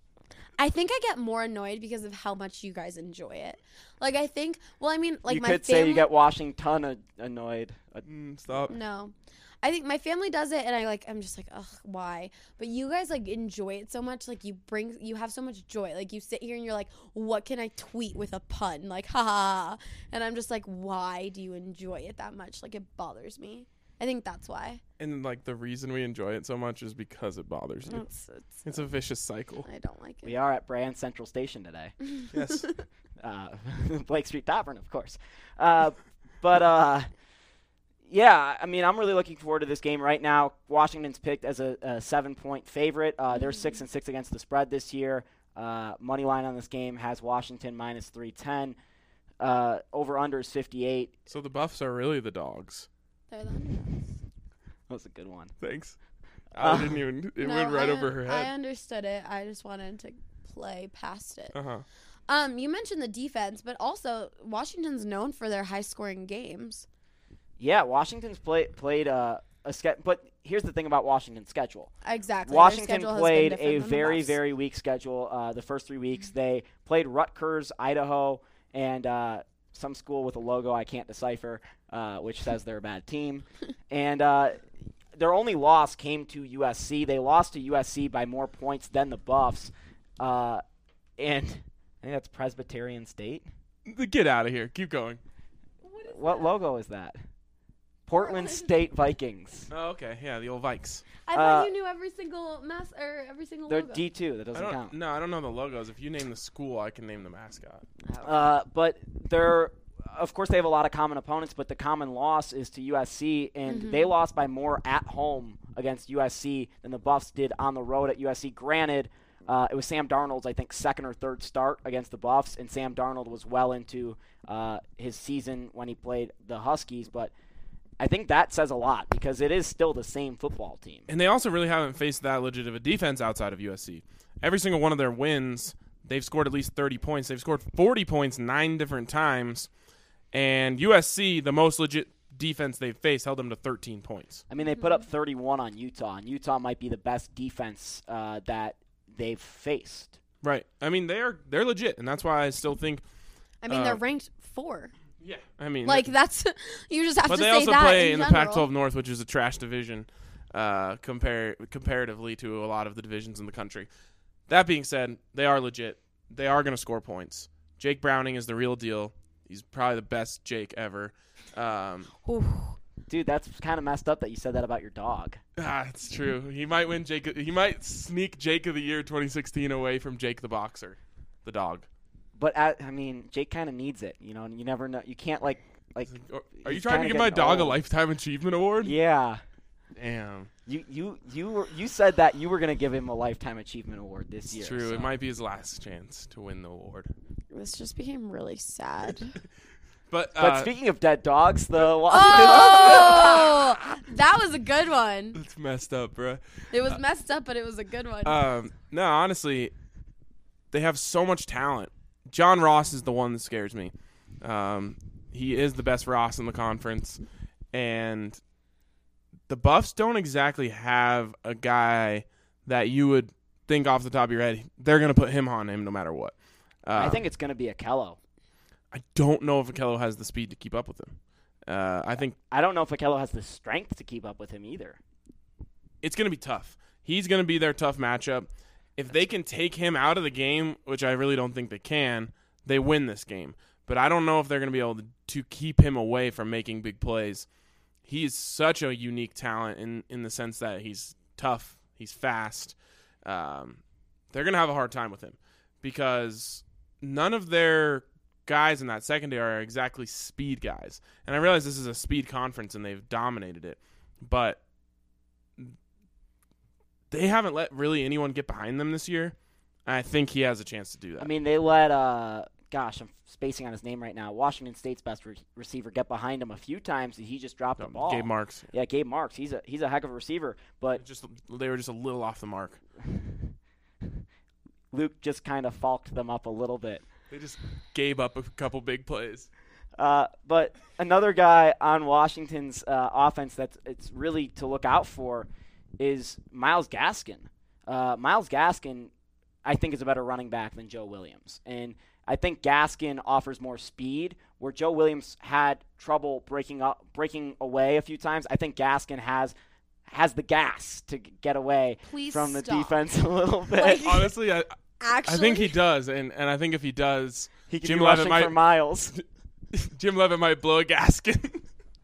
I think I get more annoyed because of how much you guys enjoy it. Like I think, well, I mean, like you my could family. say you get Washington a- annoyed. Uh, Mm, stop. No. I think my family does it, and I like. I'm just like, ugh, why? But you guys like enjoy it so much. Like you bring, you have so much joy. Like you sit here and you're like, what can I tweet with a pun? Like, ha ha. ha. And I'm just like, why do you enjoy it that much? Like it bothers me. I think that's why. And like the reason we enjoy it so much is because it bothers you. It's, it's, It's a vicious cycle. I don't like it. we are at Brand Central Station today. Yes. uh, Blake Street Tavern, of course. Uh, but uh, yeah, I mean, I'm really looking forward to this game right now. Washington's picked as a, a seven-point favorite. Uh, they're six and six against the spread this year. Uh, money line on this game has Washington minus three ten. Uh, over under is fifty-eight. So the Buffs are really the dogs. They're the underdogs. That was a good one. Thanks. Uh, I didn't even. It No, went right I, over her I head. understood it. I just wanted to play past it. Uh huh. Um, you mentioned the defense, but also Washington's known for their high-scoring games. Yeah, Washington's play, played uh, a ske- but here's the thing about Washington's schedule. Exactly. Their Washington schedule has been played different a than the very, Buffs. very weak schedule uh, the first three weeks. They played Rutgers, Idaho, and uh, some school with a logo I can't decipher, uh, which says they're a bad team. And uh, their only loss came to U S C. They lost to U S C by more points than the Buffs. Uh, and I think that's Presbyterian State. Get out of here. Keep going. What logo is that? Portland State Vikings. Oh, okay. Yeah, the old Vikes. I thought Uh, you knew every single mass or every single They're logo. D two. That I doesn't don't. count. No, I don't know the logos. If you name the school, I can name the mascot. Uh, but they're, of course, they have a lot of common opponents, but the common loss is to U S C, and Mm-hmm. they lost by more at home against U S C than the Buffs did on the road at U S C. Granted, uh, it was Sam Darnold's, I think, second or third start against the Buffs, and Sam Darnold was well into uh, his season when he played the Huskies, but I think that says a lot because it is still the same football team. And they also really haven't faced that legit of a defense outside of U S C. Every single one of their wins, they've scored at least thirty points. They've scored forty points nine different times. And U S C, the most legit defense they've faced, held them to thirteen points. I mean, they put up thirty-one on Utah, and Utah might be the best defense uh, that they've faced. Right. I mean, they're they're legit, and that's why I still think. I mean, uh, they're ranked four. Yeah. I mean, Like that's you just have but to they say also that play in, in the general. Pac twelve North, which is a trash division, uh, compare comparatively to a lot of the divisions in the country. That being said, they are legit. They are going to score points. Jake Browning is the real deal. He's probably the best Jake ever. Um, Oof. Dude, that's kind of messed up that you said that about your dog. ah, it's true. He might win Jake. He might sneak Jake of the Year twenty sixteen away from Jake the Boxer, the dog. But at, I mean, Jake kind of needs it, you know. And you never know. You can't like like. Are you he's trying to kinda give my getting dog a old. lifetime achievement award? Yeah, Damn, you you you were you said that you were gonna give him a lifetime achievement award this it's year. true. so. It might be his last chance to win the award. This just became really sad. But, But uh, speaking of dead dogs, the Washington. Oh, that was a good one. it's messed up, bruh. It was messed up, but it was a good one. Um, no, honestly, they have so much talent. John Ross is the one that scares me. Um, he is the best Ross in the conference, and the Buffs don't exactly have a guy that you would think off the top of your head they're going to put him on him no matter what. Uh, I think it's gonna be Akello. I don't know if Akello has the speed to keep up with him. Uh, I think I don't know if Akello has the strength to keep up with him either. it's going to be tough. He's going to be their tough matchup. If they can take him out of the game, which I really don't think they can, they win this game. but I don't know if they're going to be able to, to keep him away from making big plays. He is such a unique talent in, in the sense that he's tough, he's fast. Um, they're going to have a hard time with him because none of their guys in that secondary are exactly speed guys. And I realize this is a speed conference and they've dominated it, but they haven't let really anyone get behind them this year. I think he has a chance to do that. I mean, they let, uh, gosh, I'm spacing on his name right now, Washington State's best re- receiver get behind him a few times, and he just dropped no, the ball. Gabe Marks. Yeah, Gabe Marks. He's a he's a heck of a receiver, but Just they were just a little off the mark. Luke just kind of falked them up a little bit. They just gave up a couple big plays. Uh, but another guy on Washington's uh, offense that's it's really to look out for is Myles Gaskin. Uh, Myles Gaskin, I think, is a better running back than Joe Williams. And I think Gaskin offers more speed, where Joe Williams had trouble breaking up, breaking away a few times. I think Gaskin has has the gas to g- get away Please from the stop. defense a little bit. Like- Honestly, I Actually, I think he does, and, and I think if he does, he could Jim be Levitt rushing for might Miles. Jim Levitt might blow a Gaskin.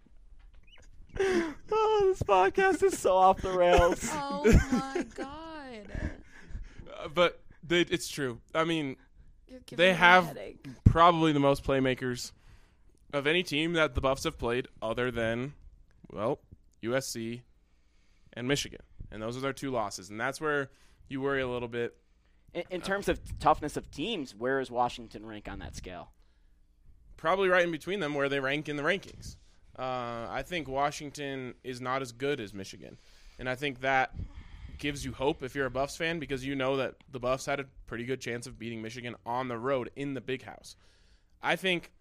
Oh, this podcast is so off the rails. Oh my god. Uh, but they, it's true. I mean, You're giving they me a have headache. probably the most playmakers of any team that the Buffs have played, other than, well, U S C and Michigan. And those are their two losses. And that's where you worry a little bit. In, in terms of toughness of teams, where is Washington rank on that scale? Probably right in between them where they rank in the rankings. Uh, I think Washington is not as good as Michigan. And I think that gives you hope if you're a Buffs fan, because you know that the Buffs had a pretty good chance of beating Michigan on the road in the Big House. I think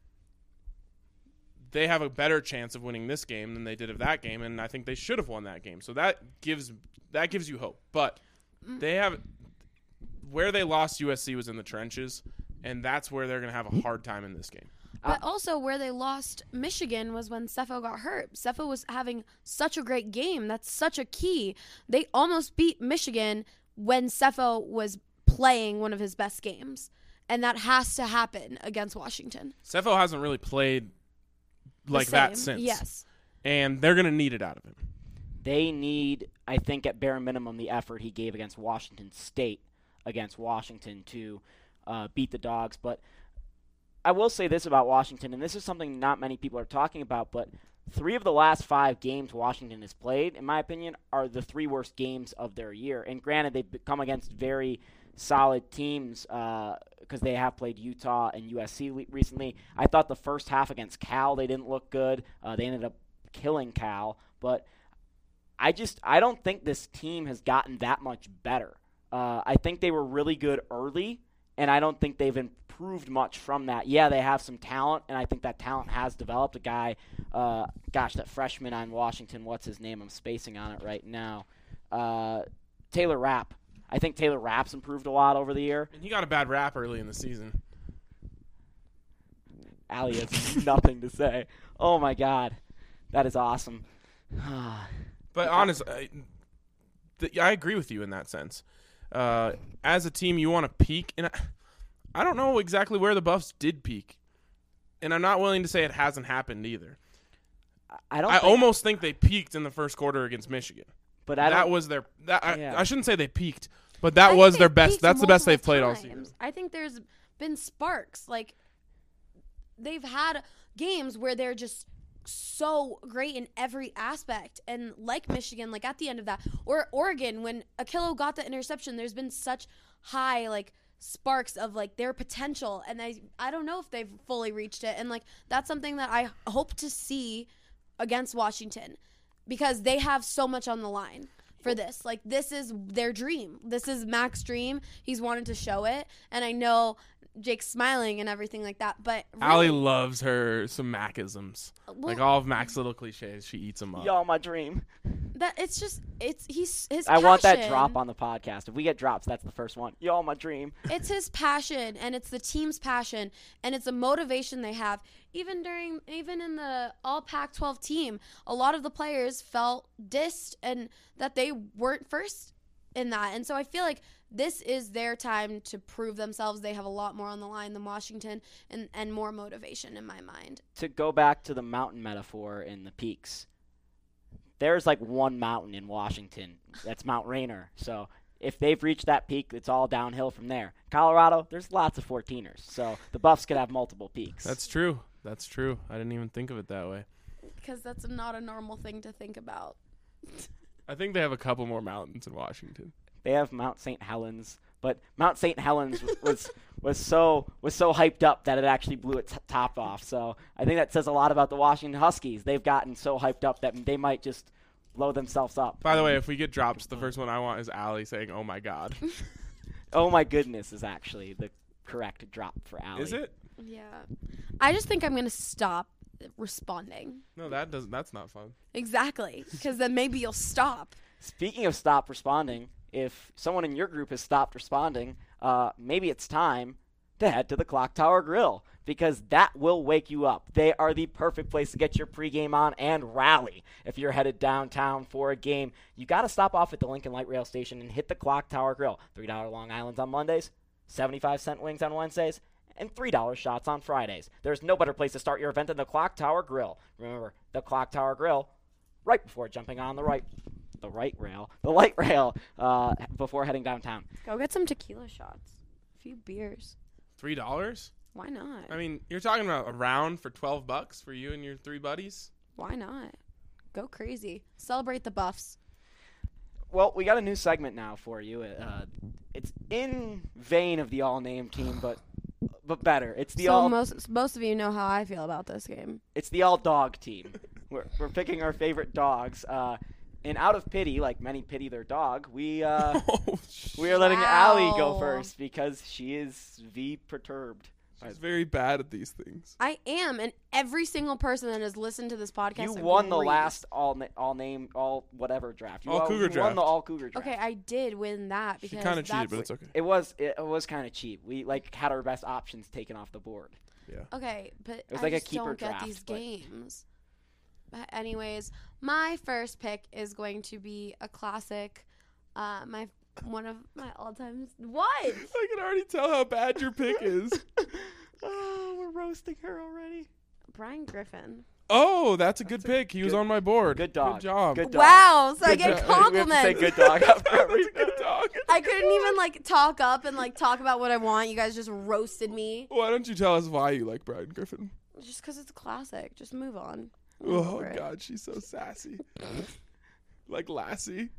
they have a better chance of winning this game than they did of that game, and I think they should have won that game. So that gives that gives you hope. But they have where they lost U S C was in the trenches, and that's where they're going to have a hard time in this game. But also where they lost Michigan was when Sefo got hurt. Sefo was having such a great game. That's such a key. They almost beat Michigan when Sefo was playing one of his best games. And that has to happen against Washington. Sefo hasn't really played The like that same. since. Yes. And they're going to need it out of him. They need, I think, at bare minimum, the effort he gave against Washington State against Washington to uh, beat the Dogs. But I will say this about Washington, and this is something not many people are talking about, but three of the last five games Washington has played, in my opinion, are the three worst games of their year. And granted, they've come against very solid teams because uh, they have played Utah and U S C le- recently. I thought the first half against Cal, they didn't look good. Uh, they ended up killing Cal. But I just I don't think this team has gotten that much better. Uh, I think they were really good early, and I don't think they've improved much from that. Yeah, they have some talent, and I think that talent has developed. A guy, uh, gosh, that freshman on Washington, what's his name? I'm spacing on it right now. Uh, Taylor Rapp. I think Taylor Rapp's improved a lot over the year. And he got a bad rap early in the season. Allie has nothing to say. Oh, my God. That is awesome. But honest, I, th- I agree with you in that sense. Uh, as a team, you want to peak, and I, I don't know exactly where the Buffs did peak, and I'm not willing to say it hasn't happened either. I don't. I think, almost think they peaked in the first quarter against Michigan. But I that don't, was their. That I, Yeah. I shouldn't say they peaked, but that I was think their they've best. peaked That's the best they've multiple played all times. season. I think there's been sparks. Like, they've had games where they're just so great in every aspect. And like Michigan, like at the end of that, or Oregon, when Akilo got the interception, there's been such high, like, sparks of, like, their potential. And I, I don't know if they've fully reached it. And, like, that's something that I hope to see against Washington, because they have so much on the line for this. Like, this is their dream. This is Mac's dream. He's wanted to show it. And I know Jake's smiling and everything like that, but really, Allie loves her some Macisms. well, Like all of Mac's little cliches, she eats them up. Y'all, my dream. that it's just it's he's his I want that passion. drop on the podcast. If we get drops, that's the first one. Y'all, my dream. It's his passion, and it's the team's passion, and it's a motivation they have. Even during, even in the all Pac twelve team, a lot of the players felt dissed and that they weren't first in that. And so I feel like this is their time to prove themselves. They have a lot more on the line than Washington and, and more motivation in my mind. To go back to the mountain metaphor in the peaks, there's like one mountain in Washington. That's Mount Rainier. So if they've reached that peak, it's all downhill from there. Colorado, there's lots of fourteeners. So the Buffs could have multiple peaks. That's true. That's true. I didn't even think of it that way. Because that's not a normal thing to think about. I think they have a couple more mountains in Washington. They have Mount Saint Helens, but Mount Saint Helens was, was was so was so hyped up that it actually blew its top off. So I think that says a lot about the Washington Huskies. They've gotten so hyped up that they might just blow themselves up. By the way, if we get dropped, the first one I want is Allie saying, "Oh my God." Oh my goodness is actually the correct drop for Allie. Is it? Yeah. I just think I'm going to stop responding. No, that doesn't. That's not fun. Exactly. Because then maybe you'll stop. Speaking of stop responding, if someone in your group has stopped responding, uh, maybe it's time to head to the Clock Tower Grill, because that will wake you up. They are the perfect place to get your pregame on and rally. If you're headed downtown for a game, you got to stop off at the Lincoln Light Rail Station and hit the Clock Tower Grill. three dollar Long Islands on Mondays, seventy-five cent wings on Wednesdays, and three dollar shots on Fridays. There's no better place to start your event than the Clock Tower Grill. Remember, the Clock Tower Grill, right before jumping on the right the right rail, the light rail, uh, before heading downtown. Go get some tequila shots. A few beers. Three dollars? Why not? I mean, you're talking about a round for twelve bucks for you and your three buddies. Why not? Go crazy. Celebrate the Buffs. Well, we got a new segment now for you. Uh, it's in vein of the all-name team, but but better. It's the so all. most most of you know how I feel about this game. It's the all-dog team. We're we're picking our favorite dogs. Uh, and out of pity, like many pity their dog, we uh, Oh, we are letting Wow. Allie go first because she is V perturbed. she's very bad at these things. I am, and every single person that has listened to this podcast You won the agrees. last all na- all name all whatever draft. You All won, Cougar you won the draft. all Cougar draft. Okay, I did win that She because kind of cheated, that's but it's okay. It was it, it was kind of cheap. We like had our best options taken off the board. Yeah. okay, but was I like a just keeper don't get draft, these but- games. But anyways, my first pick is going to be a classic. Uh, my one of my all-time. What? I can already tell how bad your pick is. Oh, we're roasting her already. Brian Griffin. Oh, that's a good pick. He was good- on my board. Good dog. Good job. Good dog. Wow, so I Good get job. We have to compliments. say good dog after every That's a good dog. I couldn't even like talk up and like talk about what I want. You guys just roasted me. Why don't you tell us why you like Brian Griffin? Just because it's a classic. Just move on. I'm Oh, over it. God, she's so sassy. Like Lassie.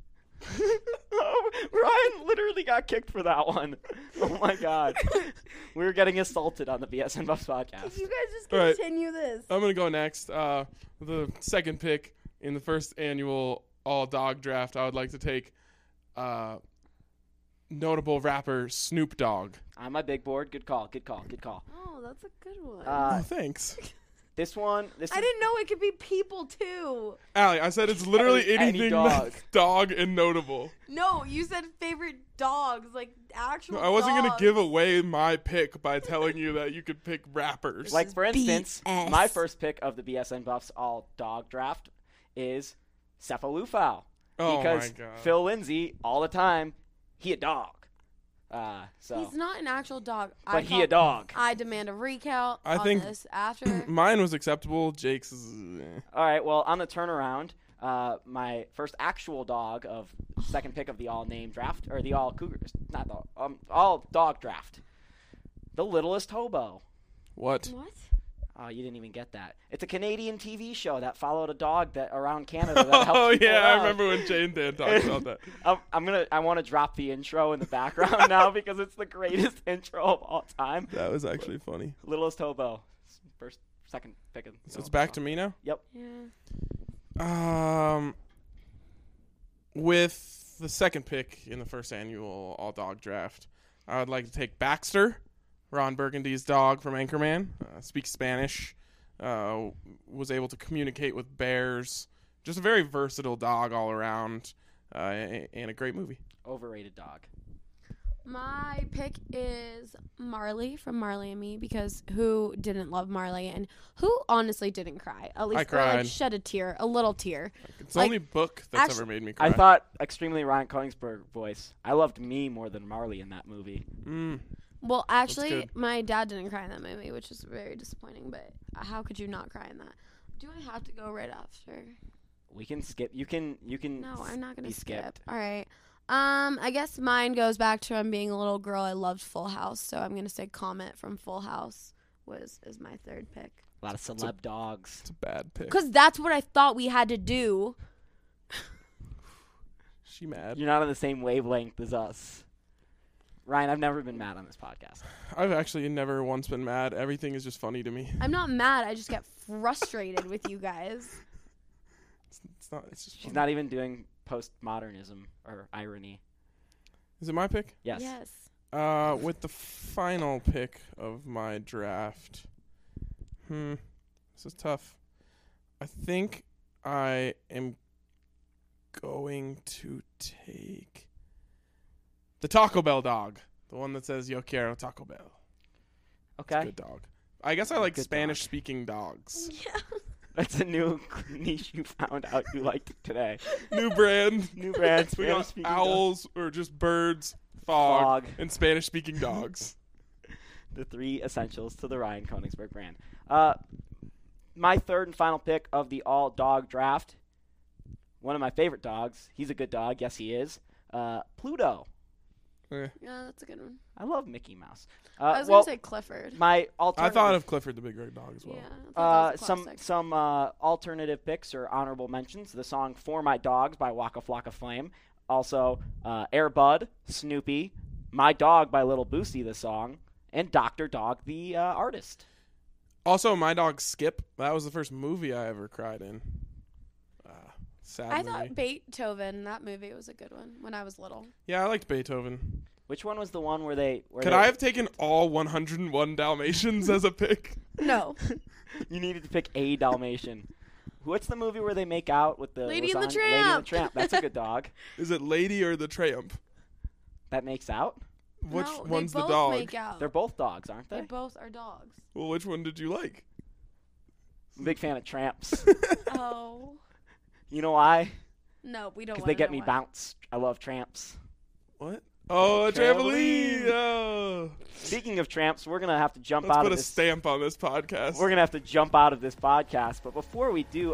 Oh, Ryan literally got kicked for that one. Oh my God, we were getting assaulted on the B S N Buffs podcast. You guys just All right. continue this. I'm going to go next. Uh, the second pick in the first annual all-dog draft, I would like to take uh, notable rapper Snoop Dogg. On my big board, good call, good call, good call. Oh, that's a good one. Uh, oh, thanks. This one, this I is, didn't know it could be people too. Allie, I said it's literally Any- any anything dog. that's dog and notable. No, you said favorite dogs, like actual. I wasn't going to dogs. give away my pick by telling you that you could pick rappers. like for instance, B S. my first pick of the B S N Buffs all dog draft is Cephalufau. Oh, because my God. Phil Lindsay all the time, he a dog. Uh, so, He's not an actual dog. I but he call- a dog. I demand a recount I on think- this after. Mine was acceptable. Jake's is... eh. All right, well, on the turnaround, uh, my first actual dog of second pick of the all name draft, or the all Cougars, not the um, all dog draft, the Littlest Hobo. What? What? Oh, you didn't even get that. It's a Canadian T V show that followed a dog that around Canada that helps Oh, people yeah, I out. remember when Jane Dan talked about that. I'm, I'm gonna. I want to drop the intro in the background now because it's the greatest intro of all time. That was actually funny. Littlest Hobo, first, second pick of. So it's back to me now? Yep. Yeah. Um, with the second pick in the first annual all-dog draft, I would like to take Baxter, Ron Burgundy's dog from Anchorman. Uh, speaks Spanish, uh, was able to communicate with bears. Just a very versatile dog all around, uh, and a great movie. Overrated dog. My pick is Marley from Marley and Me, because who didn't love Marley, and who honestly didn't cry? At least I or, cried. like shed a tear, a little tear. It's the Like, only book that's actu- ever made me cry. I thought extremely Ryan Koenigsberg voice. I loved me more than Marley in that movie. Mm. Well, actually, good. my dad didn't cry in that movie, which is very disappointing. But how could you not cry in that? Do I have to go right after? We can skip. You can. You can. No, I'm not gonna be skip. skipped. All right. Um, I guess mine goes back to I'm being a little girl. I loved Full House, so I'm gonna say Comet from Full House was is my third pick. A lot of celeb dogs. It's a bad pick. Cause that's what I thought we had to do. She mad. You're not on the same wavelength as us. Ryan, I've never been mad on this podcast. I've actually never once been mad. Everything is just funny to me. I'm not mad. I just get frustrated with you guys. It's, it's not. It's just. She's funny. not even doing postmodernism or irony. Is it my pick? Yes. Yes. Uh, with the final pick of my draft. Hmm. This is tough. I think I am going to take the Taco Bell dog. The one that says Yo quiero Taco Bell. It's a Okay. good dog. I guess I like Good Spanish speaking dogs. Yeah. That's a new niche you found out you liked today. New brand. New brand. We got Spanish-speaking dog. owls or just birds, fog, Fog. and Spanish speaking dogs. The three essentials to the Ryan Koenigsberg brand. Uh, my third and final pick of the all dog draft. One of my favorite dogs. He's a good dog. Yes, he is. Uh, Pluto. Eh. Yeah, that's a good one. I love Mickey Mouse. Uh, I was well, gonna say Clifford. my I alternative. thought of Clifford the Big Red Dog as well. Yeah. I thought Uh, that was a some classic. some uh, alternative picks or honorable mentions. The song "For My Dogs" by Waka Flocka Flame. Also, uh, Air Bud, Snoopy, "My Dog" by Little Boosie, the song, and Doctor Dog, the uh, artist. Also, my dog Skip. That was the first movie I ever cried in. Uh, sad I movie. thought Beethoven, that movie was a good one when I was little. yeah, I liked Beethoven. Which one was the one where they? Where Could they, I have taken all one hundred one Dalmatians as a pick? No. You needed to pick a Dalmatian. What's the movie where they make out with the Lady and the lasagna? Lady and Tramp. the Tramp. That's a good dog. Is it Lady or the Tramp? That makes out. Which no, one's they the both dog? Make out. They're both dogs, aren't They they? both are dogs. Well, which one did you like? I'm a big fan of tramps. Oh. You know why? No, we don't. Because they wanna get know me why. bounced. I love tramps. What? Oh, a Trampoline. trampoline! Oh. Speaking of tramps, we're gonna have to jump Let's out put of a this. stamp on this podcast. We're gonna have to jump out of this podcast. But before we do,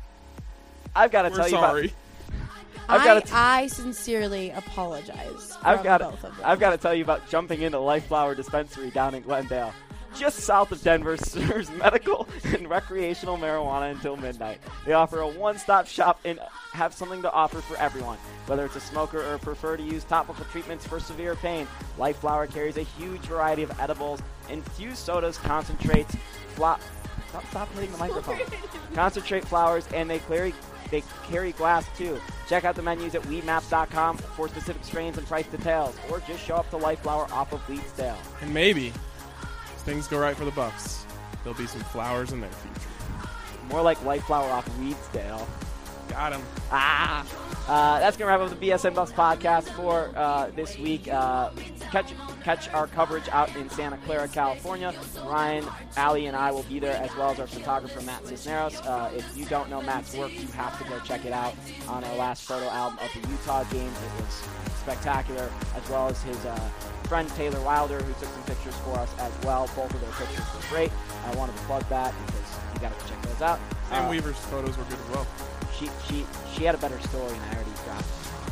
I've got to We're tell sorry. you about. I've I, got to. I sincerely apologize. I've from got. both of them. I've got to tell you about jumping into Life Flower Dispensary down in Glendale. Just south of Denver, serves medical and recreational marijuana until midnight. They offer a one-stop shop and have something to offer for everyone. Whether it's a smoker or prefer to use topical treatments for severe pain, Life Flower carries a huge variety of edibles, infused sodas, concentrates, fla- Stop, stop hitting the microphone. Concentrate flowers, and they carry they carry glass too. Check out the menus at weed maps dot com for specific strains and price details, or just show up to Life Flower off of Leedsdale. And maybe, if things go right for the Bucks, there'll be some flowers in their future. More like Life Flower off Weedsdale. Got him. Ah! Uh, that's going to wrap up the B S N Bucks podcast for uh, this week. Uh, catch catch our coverage out in Santa Clara, California. Ryan, Allie, and I will be there, as well as our photographer, Matt Cisneros. Uh, if you don't know Matt's work, you have to go check it out on our last photo album of the Utah games. It was spectacular, as well as his uh, friend Taylor Wilder, who took some pictures for us as well. Both of their pictures were great. I wanted to plug that because you got to check those out. Sam Uh, Weaver's photos were good as well. She she she had a better story, and I already dropped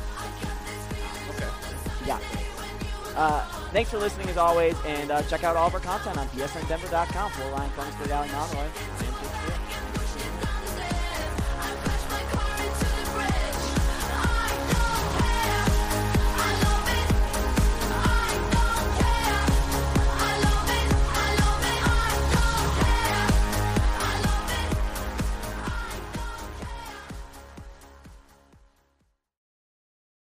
it. Okay. She got it. Uh, thanks for listening as always, and uh, check out all of our content on B S N Denver dot com. For Ryan Koenigsberg, Allie Monroy, I am